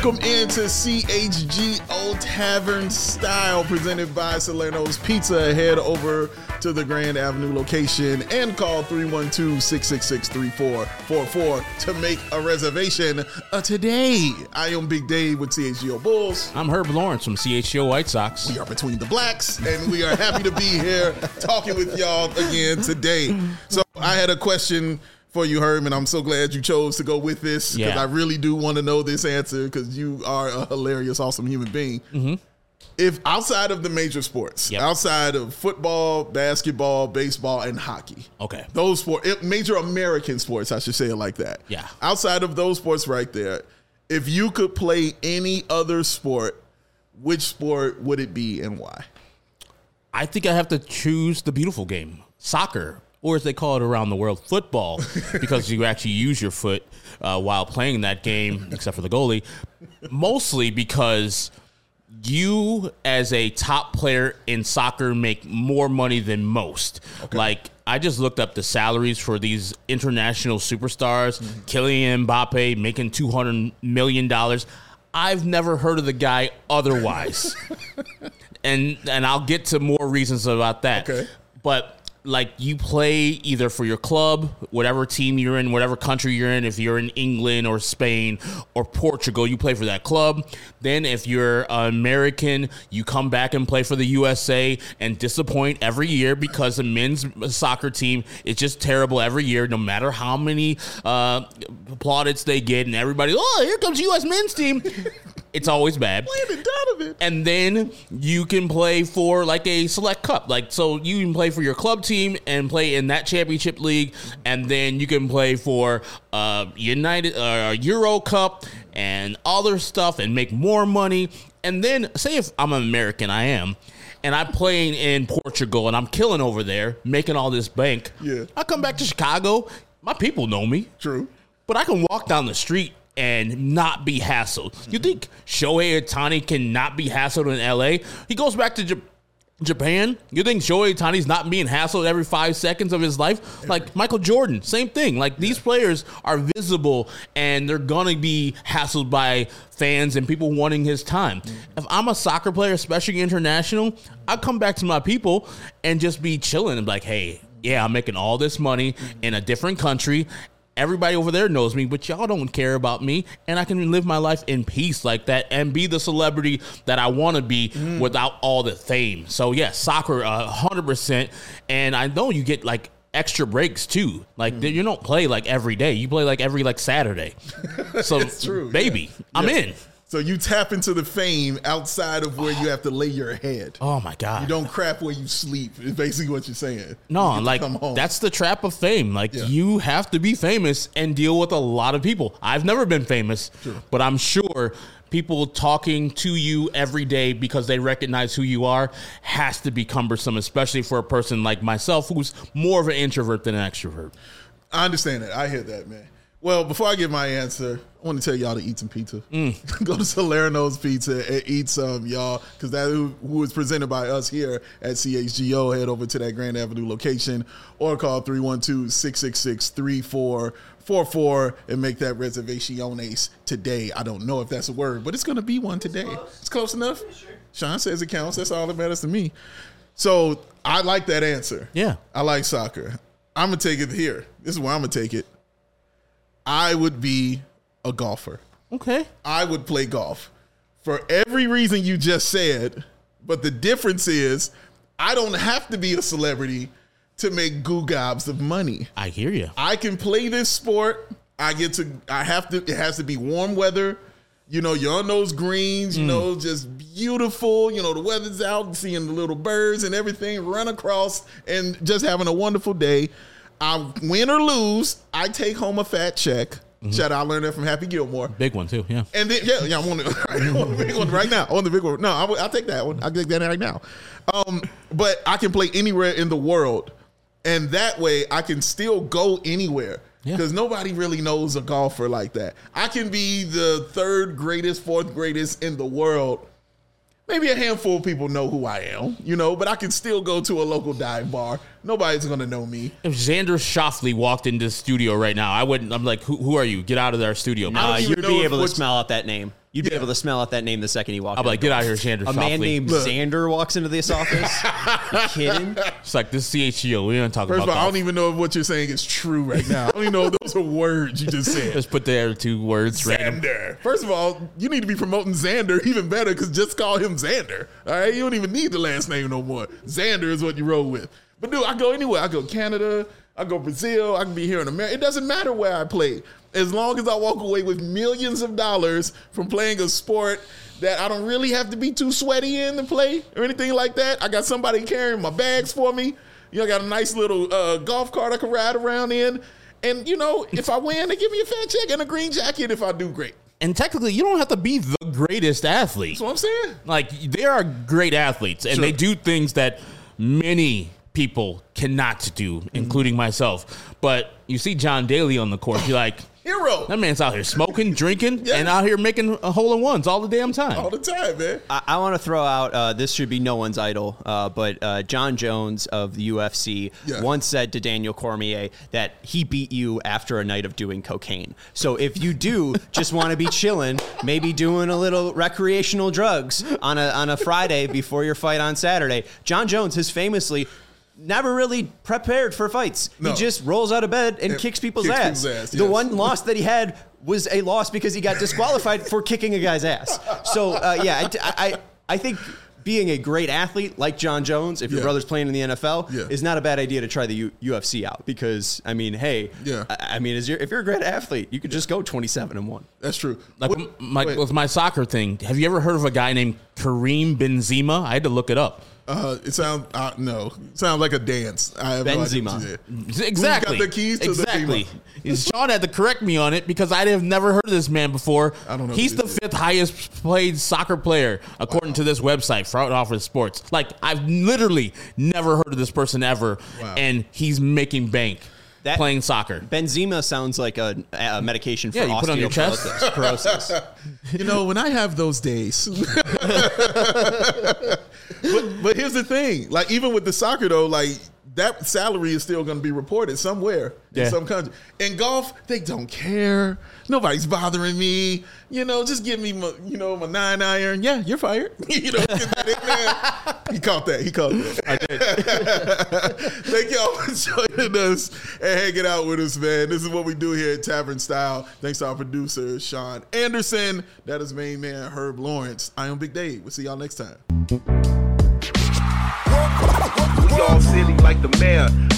Welcome into CHGO Tavern Style, presented by Salerno's Pizza. Head over to the Grand Avenue location and call 312-666-3444 to make a reservation today. I am Big Dave with CHGO Bulls. I'm Herb Lawrence from CHGO White Sox. We are Between the Blacks, and we are happy to be here talking with y'all again today. So I had a question for you, Herb, and I'm so glad you chose to go with this because I really do want to know this answer because you are a hilarious, awesome human being. Mm-hmm. If outside of the major sports, outside of football, basketball, baseball, and hockey, those sports, major American sports, I should say it like that. Yeah. Outside of those sports right there, if you could play any other sport, which sport would it be and why? I think I have to choose the beautiful game, soccer. Or as they call it around the world, football, because you actually use your foot while playing that game, except for the goalie, mostly because you, as a top player in soccer, make more money than most. Okay. Like, I just looked up the salaries for these international superstars, Kylian Mbappe making $200 million. I've never heard of the guy otherwise. and I'll get to more reasons about that. Okay. But like, you play either for your club, whatever team you're in, whatever country you're in. If you're in England or Spain or Portugal, you play for that club. Then if you're American, you come back and play for the USA and disappoint every year because the men's soccer team is just terrible every year, no matter how many plaudits they get. And everybody, oh, here comes U.S. men's team. It's always bad. And then you can play for like a select cup. Like, so you can play for your club team and play in that championship league. And then you can play for Euro Cup and other stuff and make more money. And then say if I'm an American, I am, and I'm playing in Portugal and I'm killing over there, making all this bank. Yeah. I come back to Chicago. My people know me. True. But I can walk down the street and not be hassled. You think Shohei Ohtani can not be hassled in L.A.? He goes back to Japan. You think Shohei Ohtani's not being hassled every 5 seconds of his life? Like Michael Jordan, same thing. Like, these players are visible, and they're going to be hassled by fans and people wanting his time. If I'm a soccer player, especially international, I come back to my people and just be chilling and be like, hey, yeah, I'm making all this money in a different country. Everybody over there knows me, but y'all don't care about me, and I can live my life in peace like that and be the celebrity that I want to be without all the fame. So, yeah, soccer, 100%. And I know you get, like, extra breaks, too. Like, you don't play, like, every day. You play, like, every, like, Saturday. So, it's true, baby, I'm in. So you tap into the fame outside of where you have to lay your head. Oh, my God. You don't crap where you sleep, is basically what you're saying. No, like, that's the trap of fame. Like, you have to be famous and deal with a lot of people. I've never been famous, but I'm sure people talking to you every day because they recognize who you are has to be cumbersome, especially for a person like myself who's more of an introvert than an extrovert. I understand that. I hear that, man. Well, before I give my answer, I want to tell y'all to eat some pizza. Go to Salerno's Pizza and eat some, y'all, because that who is presented by us here at CHGO. Head over to that Grand Avenue location or call 312-666-3444 and make that reservaciones today. I don't know if that's a word, but it's going to be one today. It's close enough. Sean says it counts. That's all that matters to me. So I like that answer. Yeah. I like soccer. I'm going to take it here. This is where I'm going to take it. I would be a golfer. Okay. I would play golf for every reason you just said, but the difference is I don't have to be a celebrity to make gobs of money. I hear you. I can play this sport. It has to be warm weather. You know, you're on those greens, you know, just beautiful. You know, the weather's out, seeing the little birds and everything, run across and just having a wonderful day. I win or lose, I take home a fat check. Shout out, I learned that from Happy Gilmore. Big one too, yeah. And then I want the big one right now. I want the big one. No, I'll take that one. I'll take that right now. But I can play anywhere in the world, and that way I can still go anywhere because nobody really knows a golfer like that. I can be the third greatest, fourth greatest in the world. Maybe a handful of people know who I am, you know, but I can still go to a local dive bar. Nobody's going to know me. If Xander Schauffele walked into the studio right now, I'm like, who are you? Get out of our studio. You'd be able to smell out that name. You'd be able to smell out that name the second he walked in. I'll be like, get out of here, Xander. A man named Xander walks into this office. You kidding? It's like, this is CHGO. We don't talk First about of all, I golf. don't even know if what you're saying is true right now. I don't even know if those are words you just said. Just put the other two words random. Xander. First of all, you need to be promoting Xander even better because just call him Xander. All right? You don't even need the last name no more. Xander is what you roll with. But dude, I go anywhere. I go Canada. I go Brazil. I can be here in America. It doesn't matter where I play. As long as I walk away with millions of dollars from playing a sport that I don't really have to be too sweaty in to play or anything like that. I got somebody carrying my bags for me. You know, I got a nice little golf cart I can ride around in. And, you know, if I win, they give me a fat check and a green jacket if I do great. And technically, you don't have to be the greatest athlete. That's what I'm saying. Like, they are great athletes, and they do things that many people cannot do, including myself. But you see John Daly on the court, you're like, hero. That man's out here smoking, drinking, and out here making hole-in-ones all the damn time. All the time, man. I want to throw out, this should be no one's idol, but John Jones of the UFC once said to Daniel Cormier that he beat you after a night of doing cocaine. So if you do just want to be chilling, maybe doing a little recreational drugs on a Friday before your fight on Saturday, John Jones has famously never really prepared for fights. No. He just rolls out of bed and kicks people's ass. Yes. The one loss that he had was a loss because he got disqualified for kicking a guy's ass. So, I think being a great athlete like John Jones, if your brother's playing in the NFL, is not a bad idea to try the UFC out because, I mean, hey, if you're a great athlete, you could just go 27-1. That's true. Like with my soccer thing, have you ever heard of a guy named Kareem Benzema? I had to look it up. It sounds sounds like a dance. I have Benzema. No Exactly. Who's got the keys to exactly. Sean had to correct me on it because I have never heard of this man before. I don't know. He's the fifth highest played soccer player according to this website, Front Office Sports. Like, I've literally never heard of this person ever, and he's making bank. Playing soccer. Benzema sounds like a medication for you put on your chest. Osteoporosis. You know, when I have those days. but here's the thing. Like, even with the soccer, though, like, that salary is still going to be reported somewhere in some country. In golf, they don't care. Nobody's bothering me. You know, just give me my 9-iron. Yeah, you're fired. You know, get that in there. He caught that. I did. Thank y'all for joining us and hanging out with us, man. This is what we do here at Tavern Style. Thanks to our producer, Sean Anderson. That is main man, Herb Lawrence. I am Big Dave. We'll see y'all next time. We all silly like the mayor.